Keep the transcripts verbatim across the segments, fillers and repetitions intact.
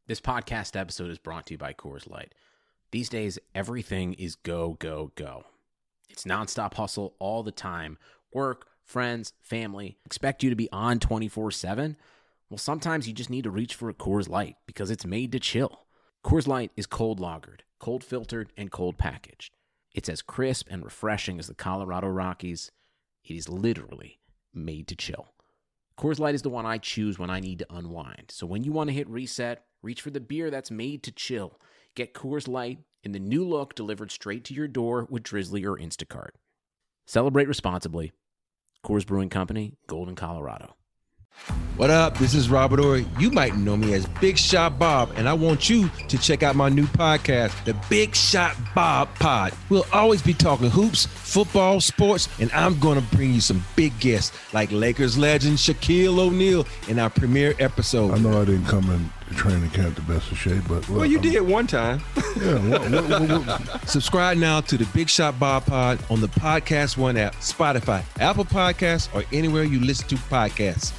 This podcast episode is brought to you by Coors Light. These days, everything is go, go, go. It's nonstop hustle all the time. Work, friends, family, expect you to be on twenty-four seven. Well, sometimes you just need to reach for a Coors Light because it's made to chill. Coors Light is cold lagered, cold filtered, and cold packaged. It's as crisp and refreshing as the Colorado Rockies. It is literally made to chill. Coors Light is the one I choose when I need to unwind. So when you want to hit reset, reach for the beer that's made to chill. Get Coors Light in the new look delivered straight to your door with Drizzly or Instacart. Celebrate responsibly. Coors Brewing Company, Golden, Colorado. What up? This is Robert Ory. You might know me as Big Shot Bob, and I want you to check out my new podcast, The Big Shot Bob Pod. We'll always be talking hoops, football, sports, and I'm going to bring you some big guests like Lakers legend Shaquille O'Neal in our premiere episode. I know I didn't come in to training camp the best of shape, but well, you I'm, did one time. Yeah. What, what, what, what? Subscribe now to The Big Shot Bob Pod on the Podcast One app, Spotify, Apple Podcasts, or anywhere you listen to podcasts.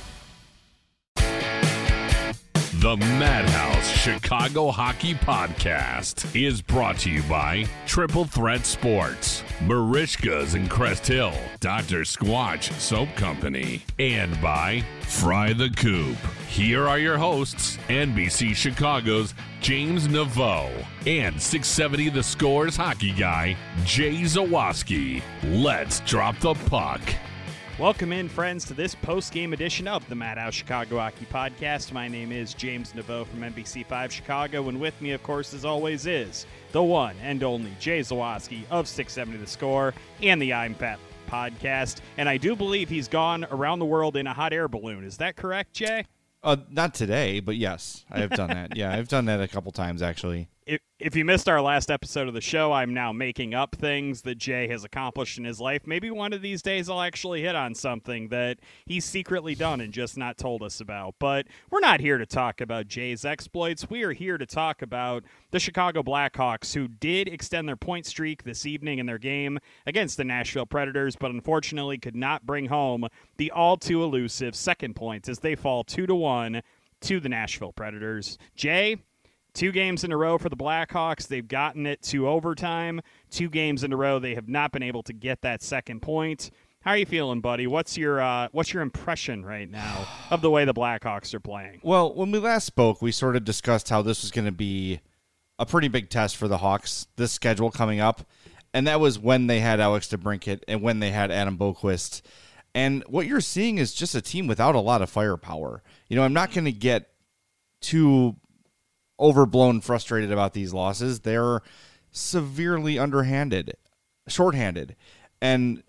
The Madhouse Chicago Hockey Podcast is brought to you by Triple Threat Sports, Marishka's in Crest Hill, Doctor Squatch Soap Company, and by Fry the Coop. Here are your hosts, N B C Chicago's James Naveau and six seventy The Score's hockey guy, Jay Zawaski. Let's drop the puck. Welcome in, friends, to this post-game edition of the Madhouse Chicago Hockey Podcast. My name is James Naveau from N B C five Chicago, and with me, of course, as always, is the one and only Jay Zawaski of six seventy The Score and the I'm Fat Podcast. And I do believe he's gone around the world in a hot air balloon. Is that correct, Jay? Uh, not today, but yes, I have done that. Yeah, I've done that a couple times, actually. If, if you missed our last episode of the show, I'm now making up things that Jay has accomplished in his life. Maybe one of these days I'll actually hit on something that he's secretly done and just not told us about. But we're not here to talk about Jay's exploits. We are here to talk about the Chicago Blackhawks, who did extend their point streak this evening in their game against the Nashville Predators, but unfortunately could not bring home the all-too-elusive second point as they fall two to one to the Nashville Predators. Jay, two games in a row for the Blackhawks. They've gotten it to overtime. Two games in a row, they have not been able to get that second point. How are you feeling, buddy? What's your uh, what's your impression right now of the way the Blackhawks are playing? Well, when we last spoke, we sort of discussed how this was going to be a pretty big test for the Hawks, this schedule coming up. And that was when they had Alex DeBrincat and when they had Adam Boqvist. And what you're seeing is just a team without a lot of firepower. You know, I'm not going to get too overblown frustrated about these losses. They're severely underhanded, shorthanded. And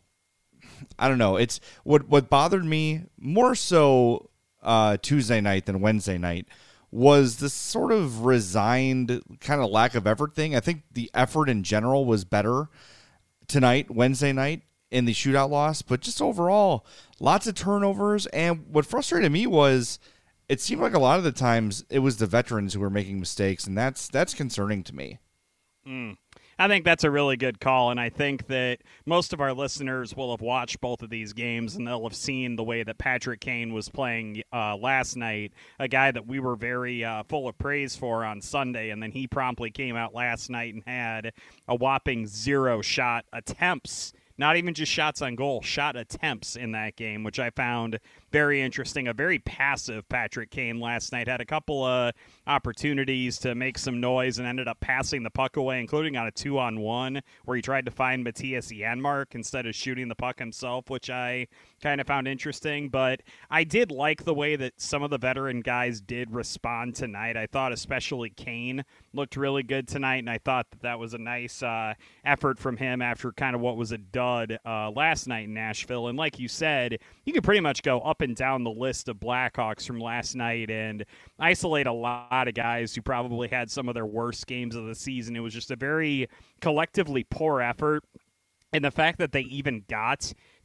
I don't know. It's what what bothered me more so uh, Tuesday night than Wednesday night was this sort of resigned kind of lack of effort thing. I think the effort in general was better tonight, Wednesday night, in the shootout loss, but just overall, lots of turnovers. And what frustrated me was it seemed like a lot of the times it was the veterans who were making mistakes, and that's that's concerning to me. Mm. I think that's a really good call, and I think that most of our listeners will have watched both of these games, and they'll have seen the way that Patrick Kane was playing uh, last night, a guy that we were very uh, full of praise for on Sunday, and then he promptly came out last night and had a whopping zero shot attempts. Not even just shots on goal, shot attempts in that game, which I found very interesting. A very passive Patrick Kane last night. Had a couple of opportunities to make some noise and ended up passing the puck away, including on a two-on-one where he tried to find Matthias Janmark instead of shooting the puck himself, which I kind of found interesting. But I did like the way that some of the veteran guys did respond tonight. I thought especially Kane looked really good tonight, and I thought that that was a nice uh, effort from him after kind of what was a dud Uh, last night in Nashville. And like you said, you could pretty much go up and down the list of Blackhawks from last night and isolate a lot of guys who probably had some of their worst games of the season. It was just a very collectively poor effort. And the fact that they even got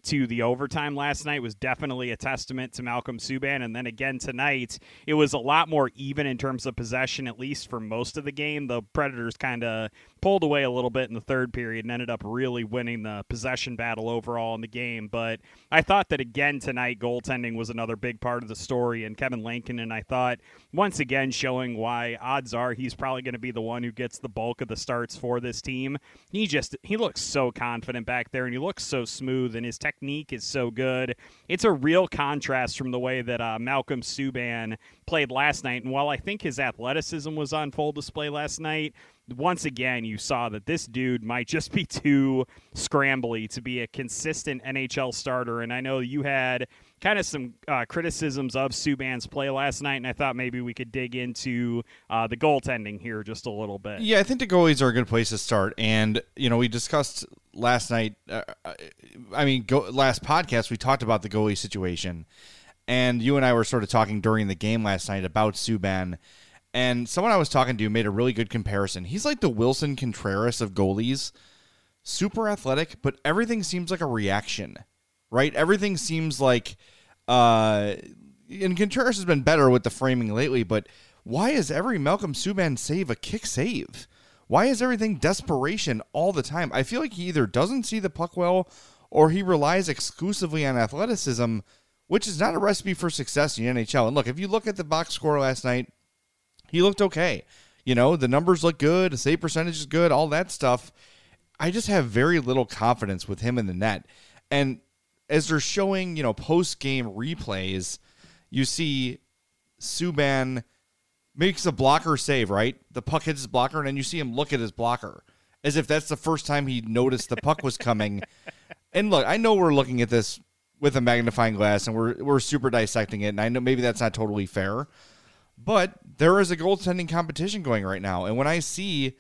to the overtime last night was definitely a testament to Malcolm Subban. And then again tonight, it was a lot more even in terms of possession, at least for most of the game. The Predators kind of pulled away a little bit in the third period and ended up really winning the possession battle overall in the game. But I thought that again tonight, goaltending was another big part of the story. And Kevin Lankinen, I thought, once again showing why odds are he's probably going to be the one who gets the bulk of the starts for this team. He just, he looks so confident back there, and he looks so smooth, and his technique is so good. It's a real contrast from the way that uh, Malcolm Subban played last night. And while I think his athleticism was on full display last night, once again, you saw that this dude might just be too scrambly to be a consistent N H L starter. And I know you had kind of some uh, criticisms of Subban's play last night, and I thought maybe we could dig into uh, the goaltending here just a little bit. Yeah, I think the goalies are a good place to start. And, you know, we discussed last night, uh, I mean, go, last podcast, we talked about the goalie situation. And you and I were sort of talking during the game last night about Subban. And someone I was talking to made a really good comparison. He's like the Wilson Contreras of goalies. Super athletic, but everything seems like a reaction, right? Everything seems like, uh, and Contreras has been better with the framing lately, but why is every Malcolm Subban save a kick save? Why is everything desperation all the time? I feel like he either doesn't see the puck well or he relies exclusively on athleticism, which is not a recipe for success in the N H L. And look, if you look at the box score last night, he looked okay. You know, the numbers look good, the save percentage is good, all that stuff. I just have very little confidence with him in the net. And as they're showing, you know, post-game replays, you see Subban makes a blocker save, right? The puck hits his blocker, and then you see him look at his blocker as if that's the first time he noticed the puck was coming. And look, I know we're looking at this with a magnifying glass, and we're we're super dissecting it, and I know maybe that's not totally fair. But there is a goaltending competition going right now. And when I see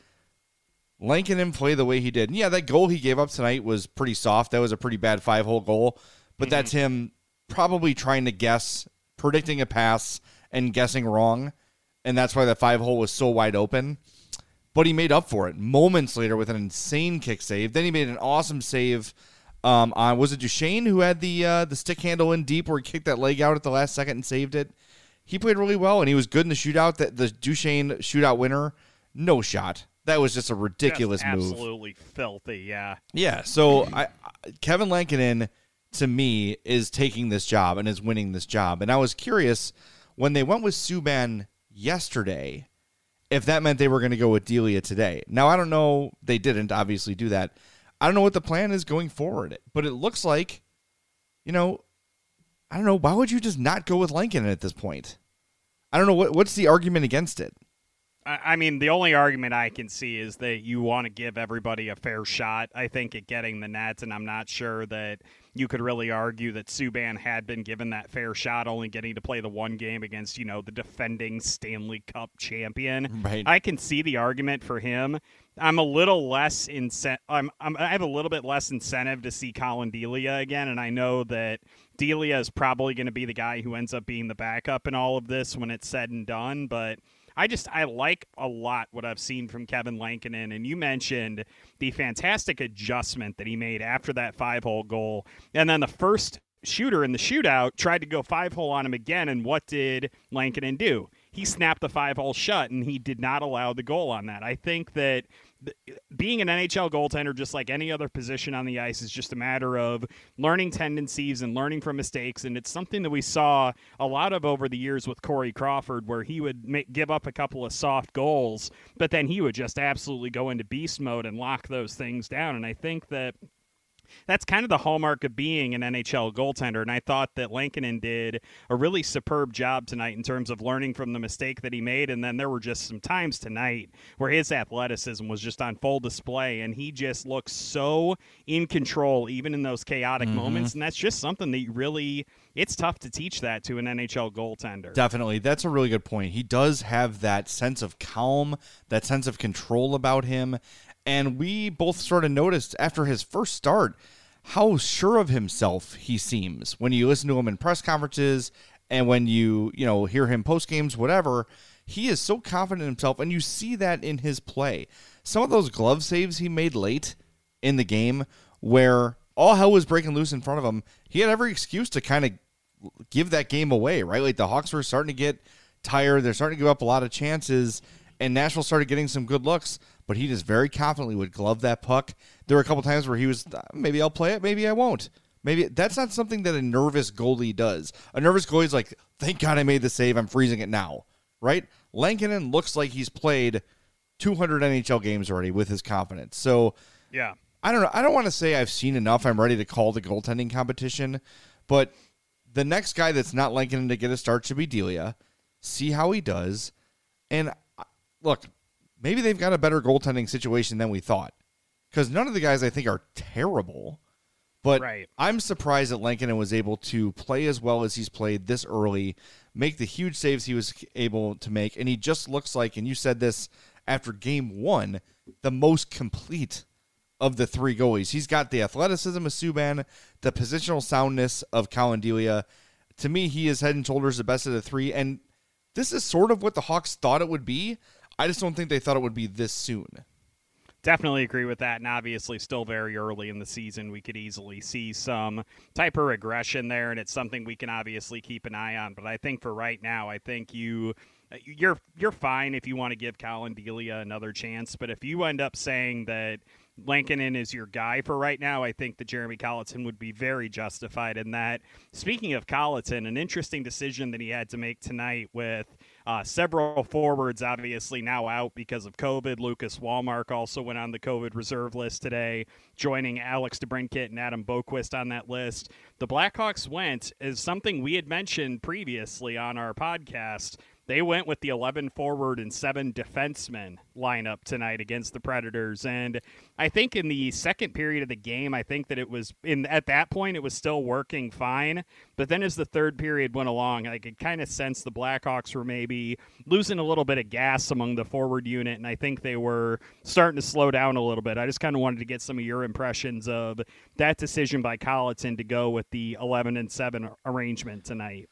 Lankinen play the way he did, and yeah, that goal he gave up tonight was pretty soft. That was a pretty bad five-hole goal. But mm-hmm. that's him probably trying to guess, predicting a pass, and guessing wrong. And that's why the five-hole was so wide open. But he made up for it moments later with an insane kick save. Then he made an awesome save um, on, was it Duchesne who had the uh, the stick handle in deep where he kicked that leg out at the last second and saved it? He played really well, and he was good in the shootout. That the Duchesne shootout winner, no shot. That was just a ridiculous just move. Absolutely filthy, yeah. Yeah, so I, Kevin Lankinen, to me, is taking this job and is winning this job. And I was curious, when they went with Subban yesterday, if that meant they were going to go with Delia today. Now, I don't know. They didn't obviously do that. I don't know what the plan is going forward, but it looks like, you know, I don't know. Why would you just not go with Lankinen at this point? I don't know. What What's the argument against it? I mean, the only argument I can see is that you want to give everybody a fair shot, I think, at getting the net, and I'm not sure that you could really argue that Subban had been given that fair shot, only getting to play the one game against, you know, the defending Stanley Cup champion. Right. I can see the argument for him. I'm a little less incent- I'm, I'm I have a little bit less incentive to see Colin Delia again, and I know that Delia is probably going to be the guy who ends up being the backup in all of this when it's said and done, but I just, I like a lot what I've seen from Kevin Lankinen, and you mentioned the fantastic adjustment that he made after that five-hole goal, and then the first shooter in the shootout tried to go five-hole on him again, and what did Lankinen do? He snapped the five-hole shut, and he did not allow the goal on that. I think that being an N H L goaltender, just like any other position on the ice, is just a matter of learning tendencies and learning from mistakes. And it's something that we saw a lot of over the years with Corey Crawford, where he would make, give up a couple of soft goals, but then he would just absolutely go into beast mode and lock those things down. And I think that that's kind of the hallmark of being an N H L goaltender, and I thought that Lankinen did a really superb job tonight in terms of learning from the mistake that he made, and then there were just some times tonight where his athleticism was just on full display, and he just looked so in control even in those chaotic mm-hmm. moments, and that's just something that you really, it's tough to teach that to an N H L goaltender. Definitely. That's a really good point. He does have that sense of calm, that sense of control about him. And we both sort of noticed after his first start how sure of himself he seems when you listen to him in press conferences and when you, you know, hear him post games, whatever. He is so confident in himself, and you see that in his play. Some of those glove saves he made late in the game where all hell was breaking loose in front of him. He had every excuse to kind of give that game away, right? Like the Hawks were starting to get tired. They're starting to give up a lot of chances, and Nashville started getting some good looks, but he just very confidently would glove that puck. There were a couple times where he was, maybe I'll play it, maybe I won't. Maybe that's not something that a nervous goalie does. A nervous goalie is like, thank God I made the save. I'm freezing it now, right? Lankinen looks like he's played two hundred N H L games already with his confidence. So yeah, I don't know. I don't want to say I've seen enough. I'm ready to call the goaltending competition, but the next guy that's not Lankinen to get a start should be Delia. See how he does. And look, maybe they've got a better goaltending situation than we thought, because none of the guys I think are terrible. But right. I'm surprised that Lankinen was able to play as well as he's played this early, make the huge saves he was able to make, and he just looks like, and you said this after game one, the most complete of the three goalies. He's got the athleticism of Subban, the positional soundness of Colin Delia. To me, he is head and shoulders the best of the three, and this is sort of what the Hawks thought it would be. I just don't think they thought it would be this soon. Definitely agree with that, and obviously still very early in the season. We could easily see some type of regression there, and it's something we can obviously keep an eye on. But I think for right now, I think you you're you're fine if you want to give Colin Delia another chance. But if you end up saying that Lankinen is your guy for right now, I think that Jeremy Colliton would be very justified in that. Speaking of Colliton, an interesting decision that he had to make tonight with uh, several forwards obviously now out because of COVID. Lucas Wallmark also went on the COVID reserve list today, joining Alex DeBrincat and Adam Boqvist on that list. The Blackhawks went, as something we had mentioned previously on our podcast, they went with the eleven forward and seven defensemen lineup tonight against the Predators. And I think in the second period of the game, I think that it was in at that point, it was still working fine. But then as the third period went along, I could kind of sense the Blackhawks were maybe losing a little bit of gas among the forward unit. And I think they were starting to slow down a little bit. I just kind of wanted to get some of your impressions of that decision by Colliton to go with the eleven and seven arrangement tonight.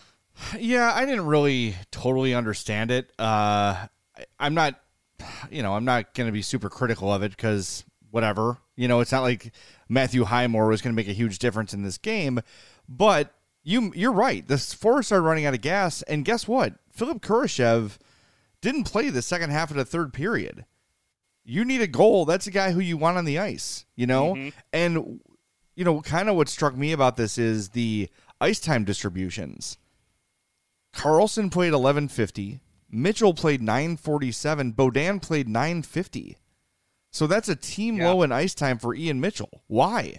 Yeah, I didn't really totally understand it. Uh, I'm not, you know, I'm not going to be super critical of it because whatever. You know, it's not like Matthew Highmore was going to make a huge difference in this game. But you, you're right. The forwards started running out of gas, and guess what? Philip Kurashev didn't play the second half of the third period. You need a goal. That's a guy who you want on the ice, you know? Mm-hmm. And, you know, kind of what struck me about this is the ice time distributions. Carlson played eleven fifty. Mitchell played nine forty-seven. Beaudin played nine fifty. So that's a team yeah. low in ice time for Ian Mitchell. Why?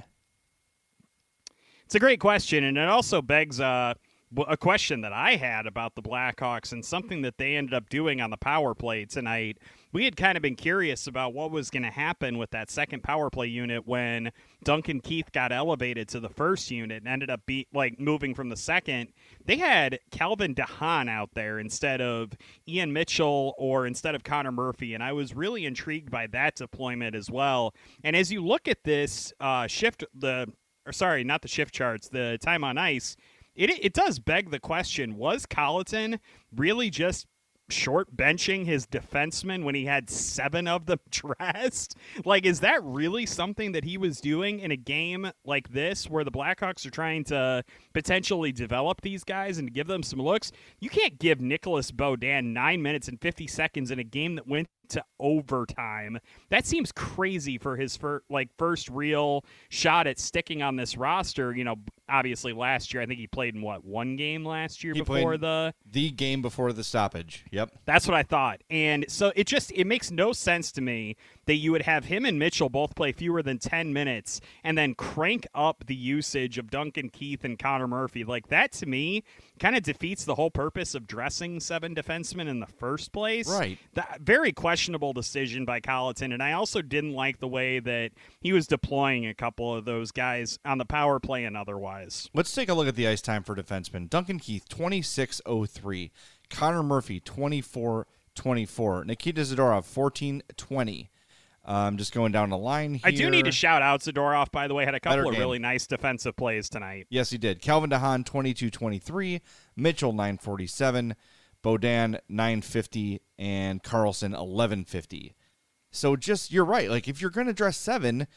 It's a great question, and it also begs uh, a question that I had about the Blackhawks and something that they ended up doing on the power play tonight. We had kind of been curious about what was going to happen with that second power play unit when Duncan Keith got elevated to the first unit and ended up be, like moving from the second. They had Calvin DeHaan out there instead of Ian Mitchell or instead of Connor Murphy, and I was really intrigued by that deployment as well. And as you look at this uh, shift, the or sorry, not the shift charts, the time on ice, it it does beg the question: was Colliton really just short benching his defenseman when he had seven of them dressed? Like, is that really something that he was doing in a game like this where the Blackhawks are trying to potentially develop these guys and give them some looks? You can't give Nicholas Beaudin nine minutes and fifty seconds in a game that went to overtime. That seems crazy for his fir- like first real shot at sticking on this roster. You know, obviously last year, I think he played in what, one game last year he before the the game before the stoppage. Yep. That's what I thought. And so it just it makes no sense to me that you would have him and Mitchell both play fewer than ten minutes and then crank up the usage of Duncan Keith and Connor Murphy. Like, that to me kind of defeats the whole purpose of dressing seven defensemen in the first place. Right. That very questionable decision by Colliton, and I also didn't like the way that he was deploying a couple of those guys on the power play and otherwise. Let's take a look at the ice time for defensemen. Duncan Keith, twenty-six oh three. Connor Murphy, twenty-four twenty-four. Nikita Zadorov, fourteen twenty. Um, just going down the line here. I do need to shout out Zadorov, by the way, had a couple Better of game. really nice defensive plays tonight. Yes, he did. Calvin DeHaan, twenty-two twenty-three. Mitchell, nine forty-seven. Beaudin, nine fifty. And Carlson, eleven fifty. So just, you're right. Like, if you're going to dress seven,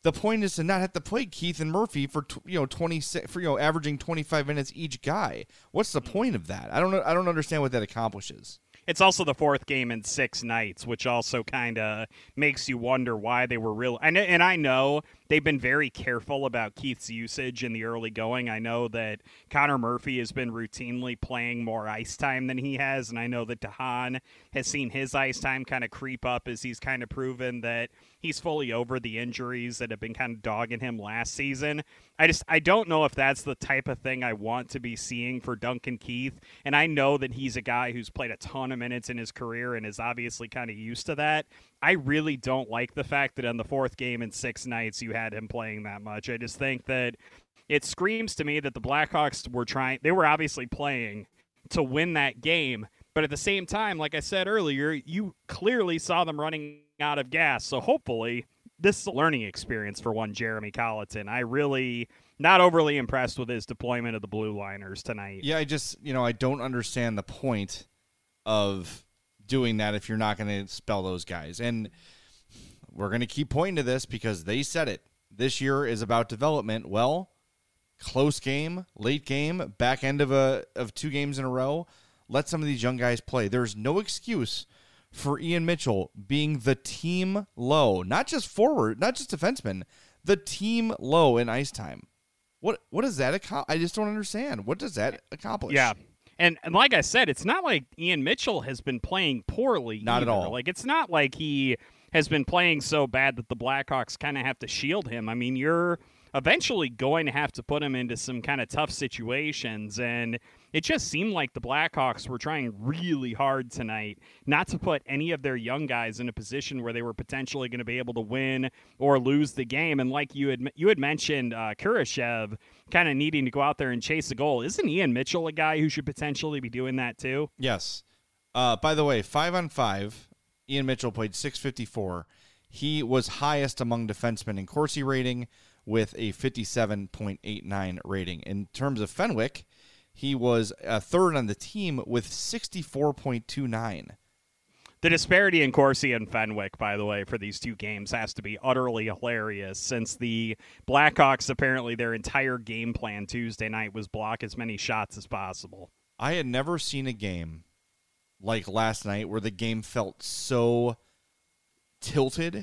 The point is to not have to play Keith and Murphy for you know twenty for you know averaging twenty-five minutes each guy. What's the point of that? I don't know. I don't understand what that accomplishes. It's also the fourth game in six nights, which also kind of makes you wonder why they were real. And, and I know they've been very careful about Keith's usage in the early going. I know that Connor Murphy has been routinely playing more ice time than he has, and I know that DeHaan has seen his ice time kind of creep up as he's kind of proven that he's fully over the injuries that have been kind of dogging him last season. I just I don't know if that's the type of thing I want to be seeing for Duncan Keith, and I know that he's a guy who's played a ton of minutes in his career and is obviously kind of used to that. I really don't like the fact that on the fourth game in six nights you had him playing that much. I just think that it screams to me that the Blackhawks were trying, they were obviously playing to win that game, but at the same time, like I said earlier, you clearly saw them running out of gas, so hopefully this is a learning experience for one Jeremy Colleton. I really not overly impressed with his deployment of the Blue Liners tonight. Yeah, I just, you know, I don't understand the point of doing that if you're not going to spell those guys. And we're going to keep pointing to this because they said it. This year is about development. Well, close game, late game, back end of a of two games in a row. Let some of these young guys play. There's no excuse for Ian Mitchell being the team low, not just forward, not just defenseman, the team low in ice time. What what does that accomplish? I just don't understand. What does that accomplish? Yeah. And, and like I said, it's not like Ian Mitchell has been playing poorly. Not either. at all. Like, it's not like he has been playing so bad that the Blackhawks kind of have to shield him. I mean, you're eventually going to have to put him into some kind of tough situations, and it just seemed like the Blackhawks were trying really hard tonight not to put any of their young guys in a position where they were potentially going to be able to win or lose the game. And like you had you had mentioned, uh, Kurashev kind of needing to go out there and chase a goal. Isn't Ian Mitchell a guy who should potentially be doing that too? Yes. Uh, by the way, five on five, Ian Mitchell played six fifty-four. He was highest among defensemen in Corsi rating with a fifty-seven point eight nine rating. In terms of Fenwick, he was a third on the team with sixty-four point two nine. The disparity in Corsi and Fenwick, by the way, for these two games has to be utterly hilarious, since the Blackhawks, apparently their entire game plan Tuesday night was block as many shots as possible. I had never seen a game like last night where the game felt so tilted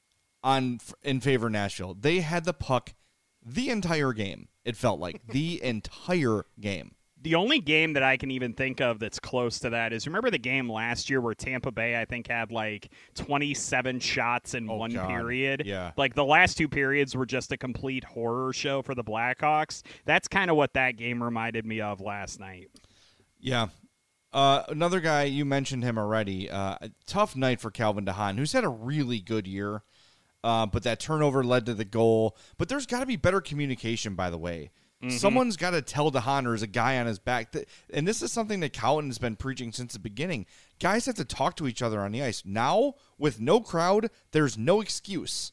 on in favor of Nashville. They had the puck the entire game, it felt like. The entire game. The only game that I can even think of that's close to that is, remember the game last year where Tampa Bay, I think, had like twenty-seven shots in oh, one God. period? Yeah. Like the last two periods were just a complete horror show for the Blackhawks. That's kind of what that game reminded me of last night. Yeah. Uh, another guy, you mentioned him already. Uh, a tough night for Calvin DeHaan, who's had a really good year. Uh, but that turnover led to the goal. But there's got to be better communication, by the way. Mm-hmm. Someone's got to tell DeHaan there's a guy on his back. That, and this is something that Colton has been preaching since the beginning. Guys have to talk to each other on the ice. Now, with no crowd, there's no excuse.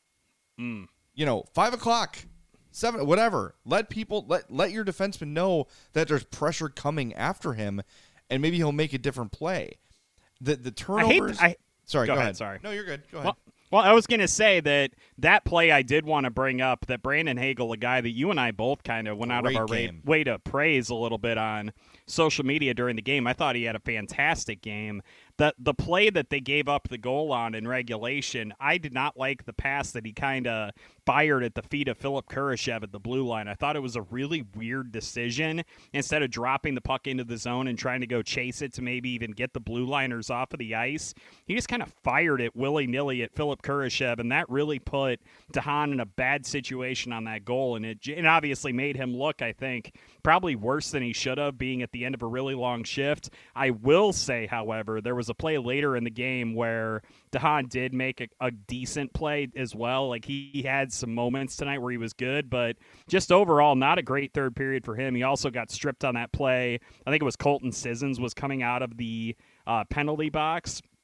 Mm. You know, five o'clock, seven, whatever. Let people, let, let your defenseman know that there's pressure coming after him, and maybe he'll make a different play. The the turnovers. I hate, I, sorry, go, go ahead, ahead. Sorry. No, you're good. Go ahead. Well, Well, I was going to say that that play I did want to bring up, that Brandon Hagel, a guy that you and I both kind of went out Great of our game. way to praise a little bit on social media during the game. I thought he had a fantastic game. The the play that they gave up the goal on in regulation, I did not like the pass that he kind of fired at the feet of Philip Kurashev at the blue line. I thought it was a really weird decision. Instead of dropping the puck into the zone and trying to go chase it to maybe even get the blue liners off of the ice, he just kind of fired it willy-nilly at Philip Kurashev, and that really put DeHaan in a bad situation on that goal, and it, it obviously made him look, I think, probably worse than he should have, being at the end of a really long shift. I will say, however, there was a play later in the game where DeHaan did make a, a decent play as well. Like, he, he had some moments tonight where he was good, but just overall, not a great third period for him. He also got stripped on that play. I think it was Colton Sissons was coming out of the uh, penalty box,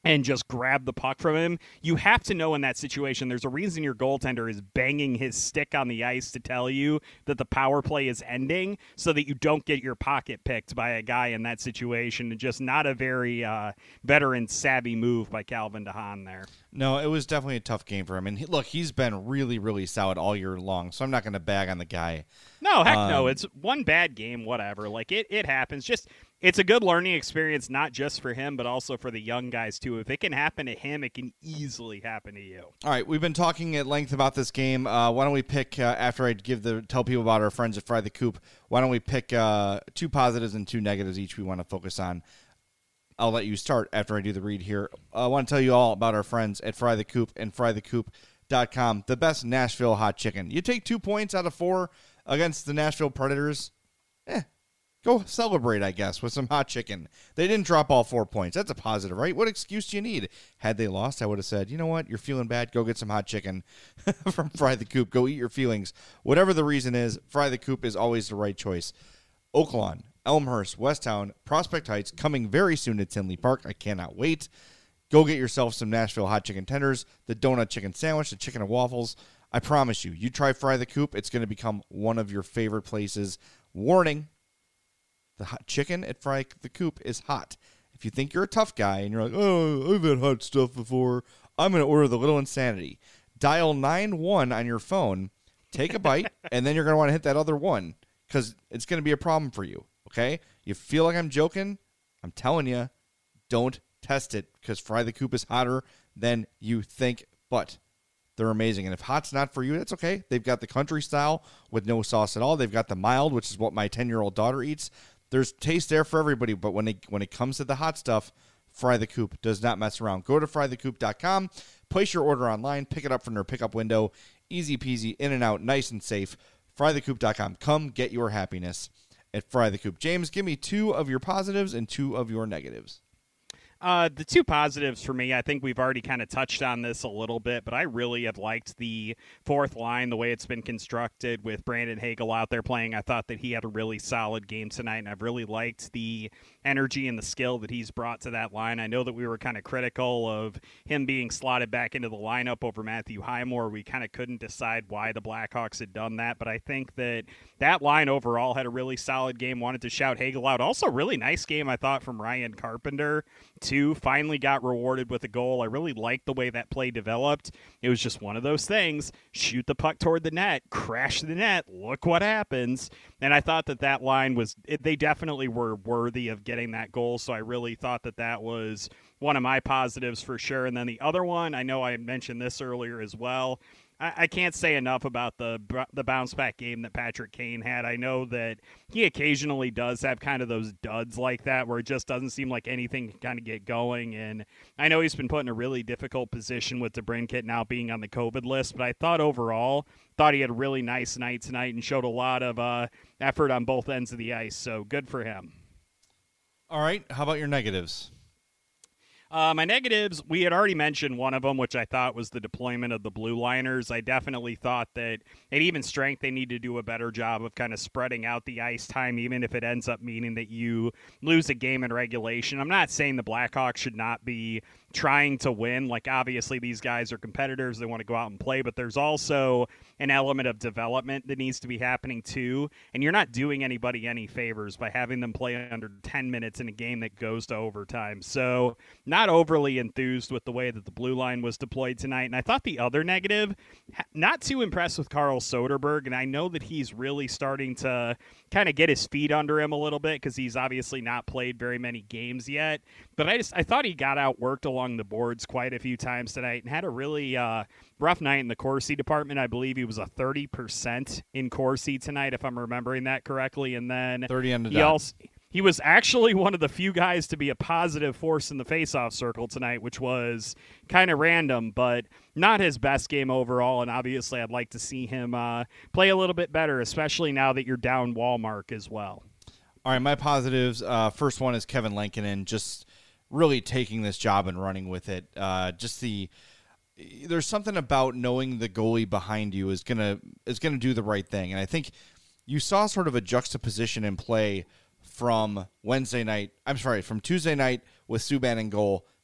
and just grab the puck from him. You have to know in that situation, there's a reason your goaltender is banging his stick on the ice to tell you that the power play is ending so that you don't get your pocket picked by a guy in that situation. And just not a very uh, veteran savvy move by Calvin DeHaan there. No, it was definitely a tough game for him. And he, look, he's been really, really solid all year long, so I'm not going to bag on the guy. No, heck um, no. It's one bad game, whatever. Like, it, it happens. Just, it's a good learning experience, not just for him, but also for the young guys, too. If it can happen to him, it can easily happen to you. All right, we've been talking at length about this game. Uh, why don't we pick, uh, after I give the tell people about our friends at Fry the Coop, why don't we pick uh, two positives and two negatives each we want to focus on. I'll let you start after I do the read here. I want to tell you all about our friends at Fry the Coop and fry the coop dot com, the best Nashville hot chicken. You take two points out of four against the Nashville Predators, eh, go celebrate, I guess, with some hot chicken. They didn't drop all four points. That's a positive, right? What excuse do you need? Had they lost, I would have said, you know what? You're feeling bad. Go get some hot chicken from Fry the Coop. Go eat your feelings. Whatever the reason is, Fry the Coop is always the right choice. Oaklawn, Elmhurst, Westtown, Prospect Heights, coming very soon to Tinley Park. I cannot wait. Go get yourself some Nashville hot chicken tenders, the donut chicken sandwich, the chicken and waffles. I promise you, you try Fry the Coop, it's going to become one of your favorite places. Warning, the hot chicken at Fry the Coop is hot. If you think you're a tough guy and you're like, oh, I've had hot stuff before, I'm going to order the Little Insanity. Dial nine one on your phone, take a bite, and then you're going to want to hit that other one because it's going to be a problem for you, okay? You feel like I'm joking? I'm telling you, don't test it because Fry the Coop is hotter than you think, but they're amazing. And if hot's not for you, that's okay. They've got the country style with no sauce at all. They've got the mild, which is what my ten-year-old daughter eats. There's taste there for everybody, but when it, when it comes to the hot stuff, Fry the Coop does not mess around. Go to fry the coop dot com, place your order online, pick it up from their pickup window. Easy peasy, in and out, nice and safe. fry the coop dot com. Come get your happiness at Fry the Coop. James, give me two of your positives and two of your negatives. Uh, the two positives for me, I think we've already kind of touched on this a little bit, but I really have liked the fourth line, the way it's been constructed with Brandon Hagel out there playing. I thought that he had a really solid game tonight, and I've really liked the energy and the skill that he's brought to that line. I know that we were kind of critical of him being slotted back into the lineup over Matthew Highmore. We kind of couldn't decide why the Blackhawks had done that, but I think that that line overall had a really solid game. Wanted to shout Hagel out. Also, really nice game, I thought, from Ryan Carpenter, too. Finally got rewarded with a goal. I really liked the way that play developed. It was just one of those things. Shoot the puck toward the net, crash the net, look what happens. And I thought that that line was, it, they definitely were worthy of getting that goal, so I really thought that that was one of my positives for sure. And then the other one, I know I mentioned this earlier as well, I can't say enough about the the bounce back game that Patrick Kane had. I know that he occasionally does have kind of those duds like that where it just doesn't seem like anything can kind of get going. And I know he's been put in a really difficult position with DeBrincat now being on the COVID list, but I thought overall, thought he had a really nice night tonight and showed a lot of uh, effort on both ends of the ice. So good for him. All right. How about your negatives? Uh, my negatives, we had already mentioned one of them, which I thought was the deployment of the blue liners. I definitely thought that at even strength, they need to do a better job of kind of spreading out the ice time, even if it ends up meaning that you lose a game in regulation. I'm not saying the Blackhawks should not be trying to win. Like, obviously, these guys are competitors. They want to go out and play, but there's also an element of development that needs to be happening too. And you're not doing anybody any favors by having them play under ten minutes in a game that goes to overtime. So not overly enthused with the way that the blue line was deployed tonight. And I thought the other negative, not too impressed with Carl Soderberg. And I know that he's really starting to kind of get his feet under him a little bit because he's obviously not played very many games yet. But I just I thought he got outworked along the boards quite a few times tonight and had a really uh, rough night in the Corsi department. I believe he was a thirty percent in Corsi tonight, if I'm remembering that correctly. And then thirty on the he dot. also he was actually one of the few guys to be a positive force in the faceoff circle tonight, which was kind of random, but not his best game overall. And obviously, I'd like to see him uh, play a little bit better, especially now that you're down Wallmark as well. All right, my positives. Uh, first one is Kevin Lankinen just really taking this job and running with it. Uh, just the there's something about knowing the goalie behind you is gonna is gonna do the right thing, and I think you saw sort of a juxtaposition in play from Wednesday night. I'm sorry, from Tuesday night with Subban in goal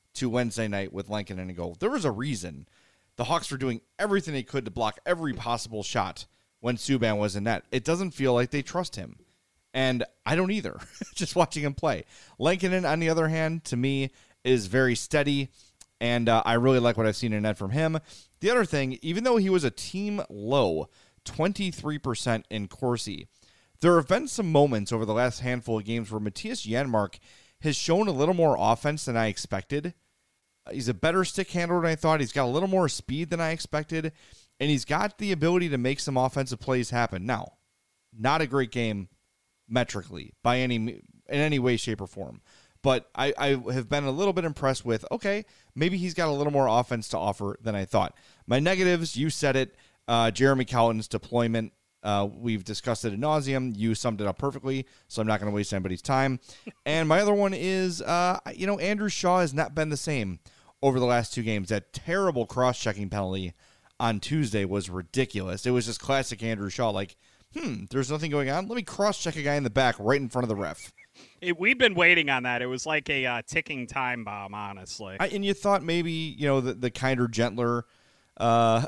to Wednesday night with Lankinen and goal. There was a reason the Hawks were doing everything they could to block every possible shot when Subban was in net. It doesn't feel like they trust him. And I don't either, just watching him play. Lankinen, on the other hand, to me, is very steady, and uh, I really like what I've seen in net from him. The other thing, even though he was a team low, twenty-three percent in Corsi, there have been some moments over the last handful of games where Matthias Janmark has shown a little more offense than I expected. He's a better stick handler than I thought. He's got a little more speed than I expected, and he's got the ability to make some offensive plays happen. Now, not a great game metrically by any in any way, shape, or form. But I, I have been a little bit impressed with, okay, maybe he's got a little more offense to offer than I thought. My negatives, you said it, uh, Jeremy Colliton's deployment. Uh, we've discussed it ad nauseum. You summed it up perfectly, so I'm not going to waste anybody's time. And my other one is, uh, you know, Andrew Shaw has not been the same over the last two games. That terrible cross-checking penalty on Tuesday was ridiculous. It was just classic Andrew Shaw, like, hmm, there's nothing going on. Let me cross-check a guy in the back right in front of the ref. It, we've been waiting on that. It was like a uh, ticking time bomb, honestly. I, and you thought maybe, you know, the, the kinder, gentler, uh,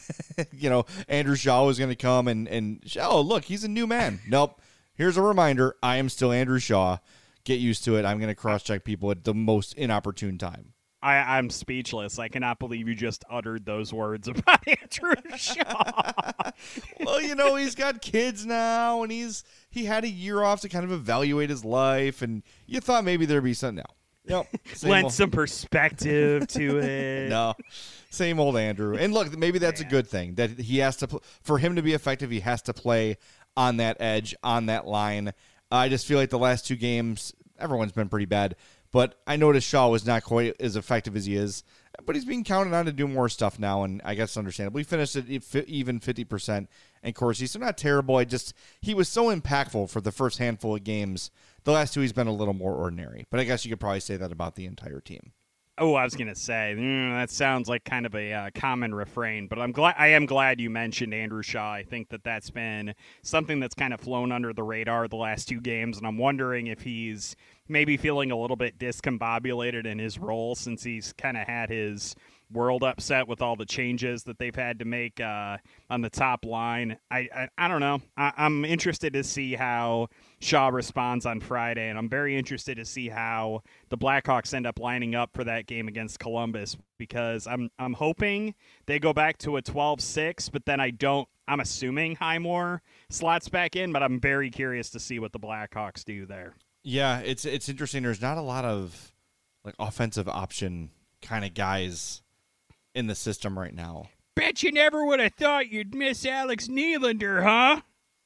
you know, Andrew Shaw was going to come and, and, oh, look, he's a new man. Nope. Here's a reminder. I am still Andrew Shaw. Get used to it. I'm going to cross-check people at the most inopportune time. I, I'm speechless. I cannot believe you just uttered those words about Andrew Shaw. Well, you know, he's got kids now, and he's he had a year off to kind of evaluate his life, and you thought maybe there'd be something. No. Nope. Lent old. some perspective to it. No. Same old Andrew. And look, maybe that's Man. a good thing, that he has to, for him to be effective, he has to play on that edge, on that line. I just feel like the last two games, everyone's been pretty bad. But I noticed Shaw was not quite as effective as he is. But he's being counted on to do more stuff now, and I guess understandable. He finished at even fifty percent in Corsi, so not terrible. I just he was so impactful for the first handful of games. The last two, he's been a little more ordinary. But I guess you could probably say that about the entire team. Oh, I was gonna say mm, that sounds like kind of a uh, common refrain, but I'm glad I am glad you mentioned Andrew Shaw. I think that that's been something that's kind of flown under the radar the last two games, and I'm wondering if he's maybe feeling a little bit discombobulated in his role since he's kind of had his world upset with all the changes that they've had to make uh, on the top line. I I, I don't know. I, I'm interested to see how Shaw responds on Friday, and I'm very interested to see how the Blackhawks end up lining up for that game against Columbus, because I'm I'm hoping they go back to a twelve six, but then I don't. I'm assuming Highmore slots back in, but I'm very curious to see what the Blackhawks do there. Yeah, it's it's interesting. There's not a lot of like offensive option kind of guys in the system right now. Bet you never would have thought you'd miss Alex Nylander, huh?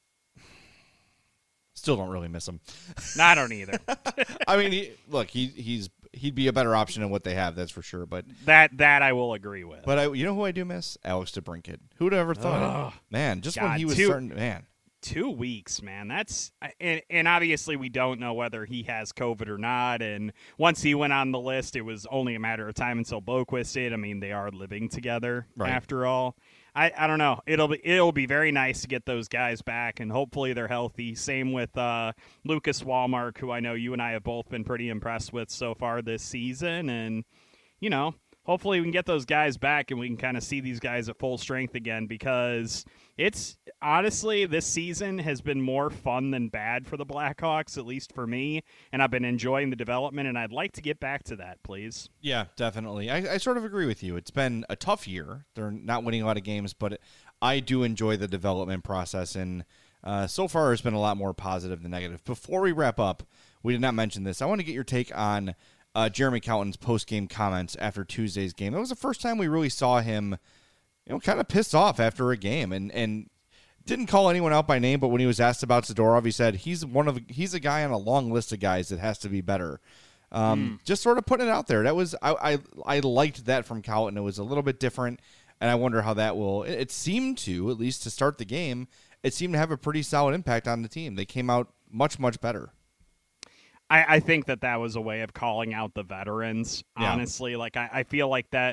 Still don't really miss him. No, I don't either. I mean, he, look, he he's he'd be a better option than what they have, that's for sure. But that that I will agree with. But I, you know who I do miss? Alex DeBrincat. Who would have ever thought Ugh. it? Man, just God, when he was two, starting, man. Two weeks, man. That's and, and obviously we don't know whether he has COVID or not. And once he went on the list, it was only a matter of time until Boquist did. I mean, they are living together right. after all. I, I don't know. It'll be it'll be very nice to get those guys back, and hopefully they're healthy. Same with uh, Lucas Wallmark, who I know you and I have both been pretty impressed with so far this season. And, you know, hopefully we can get those guys back and we can kind of see these guys at full strength again, because it's honestly, this season has been more fun than bad for the Blackhawks, at least for me, and I've been enjoying the development, and I'd like to get back to that, please. Yeah, definitely. I, I sort of agree with you. It's been a tough year. They're not winning a lot of games, but it, I do enjoy the development process, and uh, so far it's been a lot more positive than negative. Before we wrap up, we did not mention this. I want to get your take on uh, Jeremy Colliton's post-game comments after Tuesday's game. That was the first time we really saw him, you know, kind of pissed off after a game, and and didn't call anyone out by name, but when he was asked about Zadorov, he said he's one of he's a guy on a long list of guys that has to be better. Um, mm. Just sort of putting it out there. That was I, I I liked that from Colliton. It was a little bit different, and I wonder how that will. It, it seemed to, at least to start the game, it seemed to have a pretty solid impact on the team. They came out much much better. I, I think that that was a way of calling out the veterans. Yeah. Honestly, like I, I feel like that.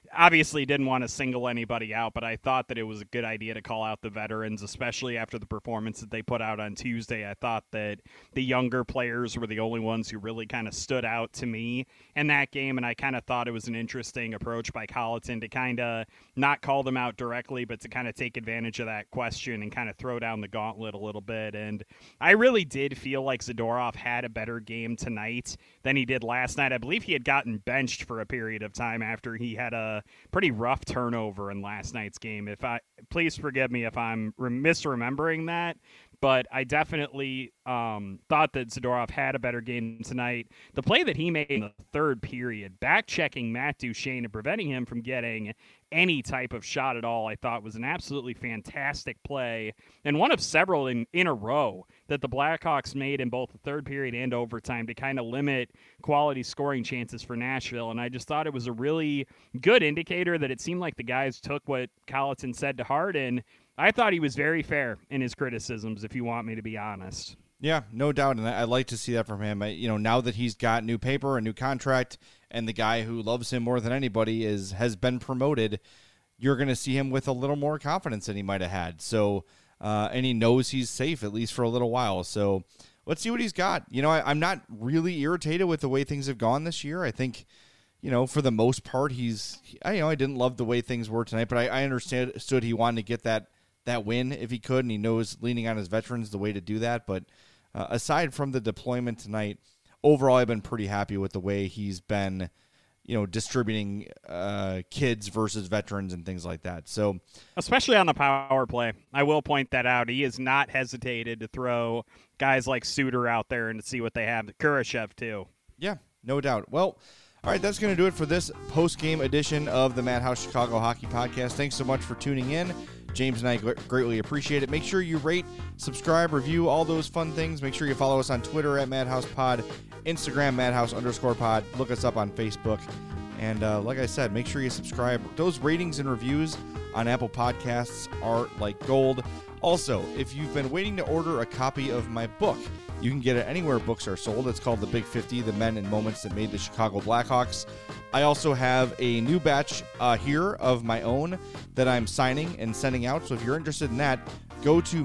obviously didn't want to single anybody out, but I thought that it was a good idea to call out the veterans, especially after the performance that they put out on Tuesday. I thought that the younger players were the only ones who really kind of stood out to me in that game, and I kind of thought it was an interesting approach by Colleton to kind of not call them out directly, but to kind of take advantage of that question and kind of throw down the gauntlet a little bit. And I really did feel like Zadorov had a better game tonight than he did last night. I believe he had gotten benched for a period of time after he had a pretty rough turnover in last night's game. If I please forgive me if I'm misremembering that, but I definitely um, thought that Zadorov had a better game tonight. The play that he made in the third period, back-checking Matt Duchene and preventing him from getting any type of shot at all, I thought was an absolutely fantastic play, and one of several in, in a row that the Blackhawks made in both the third period and overtime to kind of limit quality scoring chances for Nashville. And I just thought it was a really good indicator that it seemed like the guys took what Colleton said to heart, and I thought he was very fair in his criticisms, if you want me to be honest. Yeah, no doubt, and I like to see that from him. I, you know, now that he's got new paper, a new contract, and the guy who loves him more than anybody is has been promoted, you're going to see him with a little more confidence than he might have had. So, uh, and he knows he's safe at least for a little while. So, let's see what he's got. You know, I, I'm not really irritated with the way things have gone this year. I think, you know, for the most part, he's. I you know I didn't love the way things were tonight, but I, I understood he wanted to get that. that win if he could, and he knows leaning on his veterans the way to do that. But uh, aside from the deployment tonight, overall I've been pretty happy with the way he's been, you know, distributing uh, kids versus veterans and things like that. So, especially on the power play, I will point that out. He has not hesitated to throw guys like Suter out there and to see what they have. Kurashev too. Yeah, no doubt. Well, all right, that's going to do it for this post-game edition of the Madhouse Chicago Hockey Podcast. Thanks so much for tuning in. James and I greatly appreciate it. Make sure you rate, subscribe, review, all those fun things. Make sure you follow us on Twitter at MadhousePod, Instagram Madhouse underscore pod. Look us up on Facebook. And uh, like I said, make sure you subscribe. Those ratings and reviews on Apple Podcasts are like gold. Also, if you've been waiting to order a copy of my book, you can get it anywhere books are sold. It's called The Big fifty, The Men and Moments That Made the Chicago Blackhawks. I also have a new batch uh, here of my own that I'm signing and sending out. So if you're interested in that, go to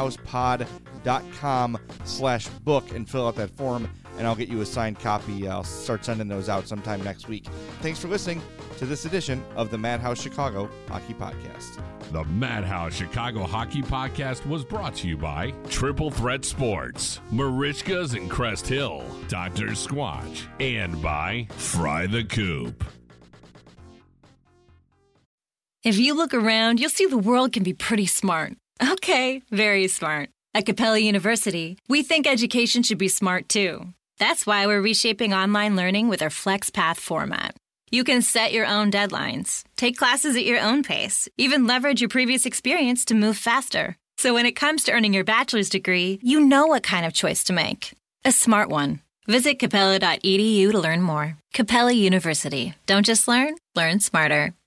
madhousepod.com slash book and fill out that form, and I'll get you a signed copy. I'll start sending those out sometime next week. Thanks for listening to this edition of the Madhouse Chicago Hockey Podcast. The Madhouse Chicago Hockey Podcast was brought to you by Triple Threat Sports, Marishkas and Crest Hill, Doctor Squatch, and by Fry the Coop. If you look around, you'll see the world can be pretty smart. Okay, very smart. At Capella University, we think education should be smart too. That's why we're reshaping online learning with our FlexPath format. You can set your own deadlines, take classes at your own pace, even leverage your previous experience to move faster. So when it comes to earning your bachelor's degree, you know what kind of choice to make. A smart one. Visit capella dot e d u to learn more. Capella University. Don't just learn, learn smarter.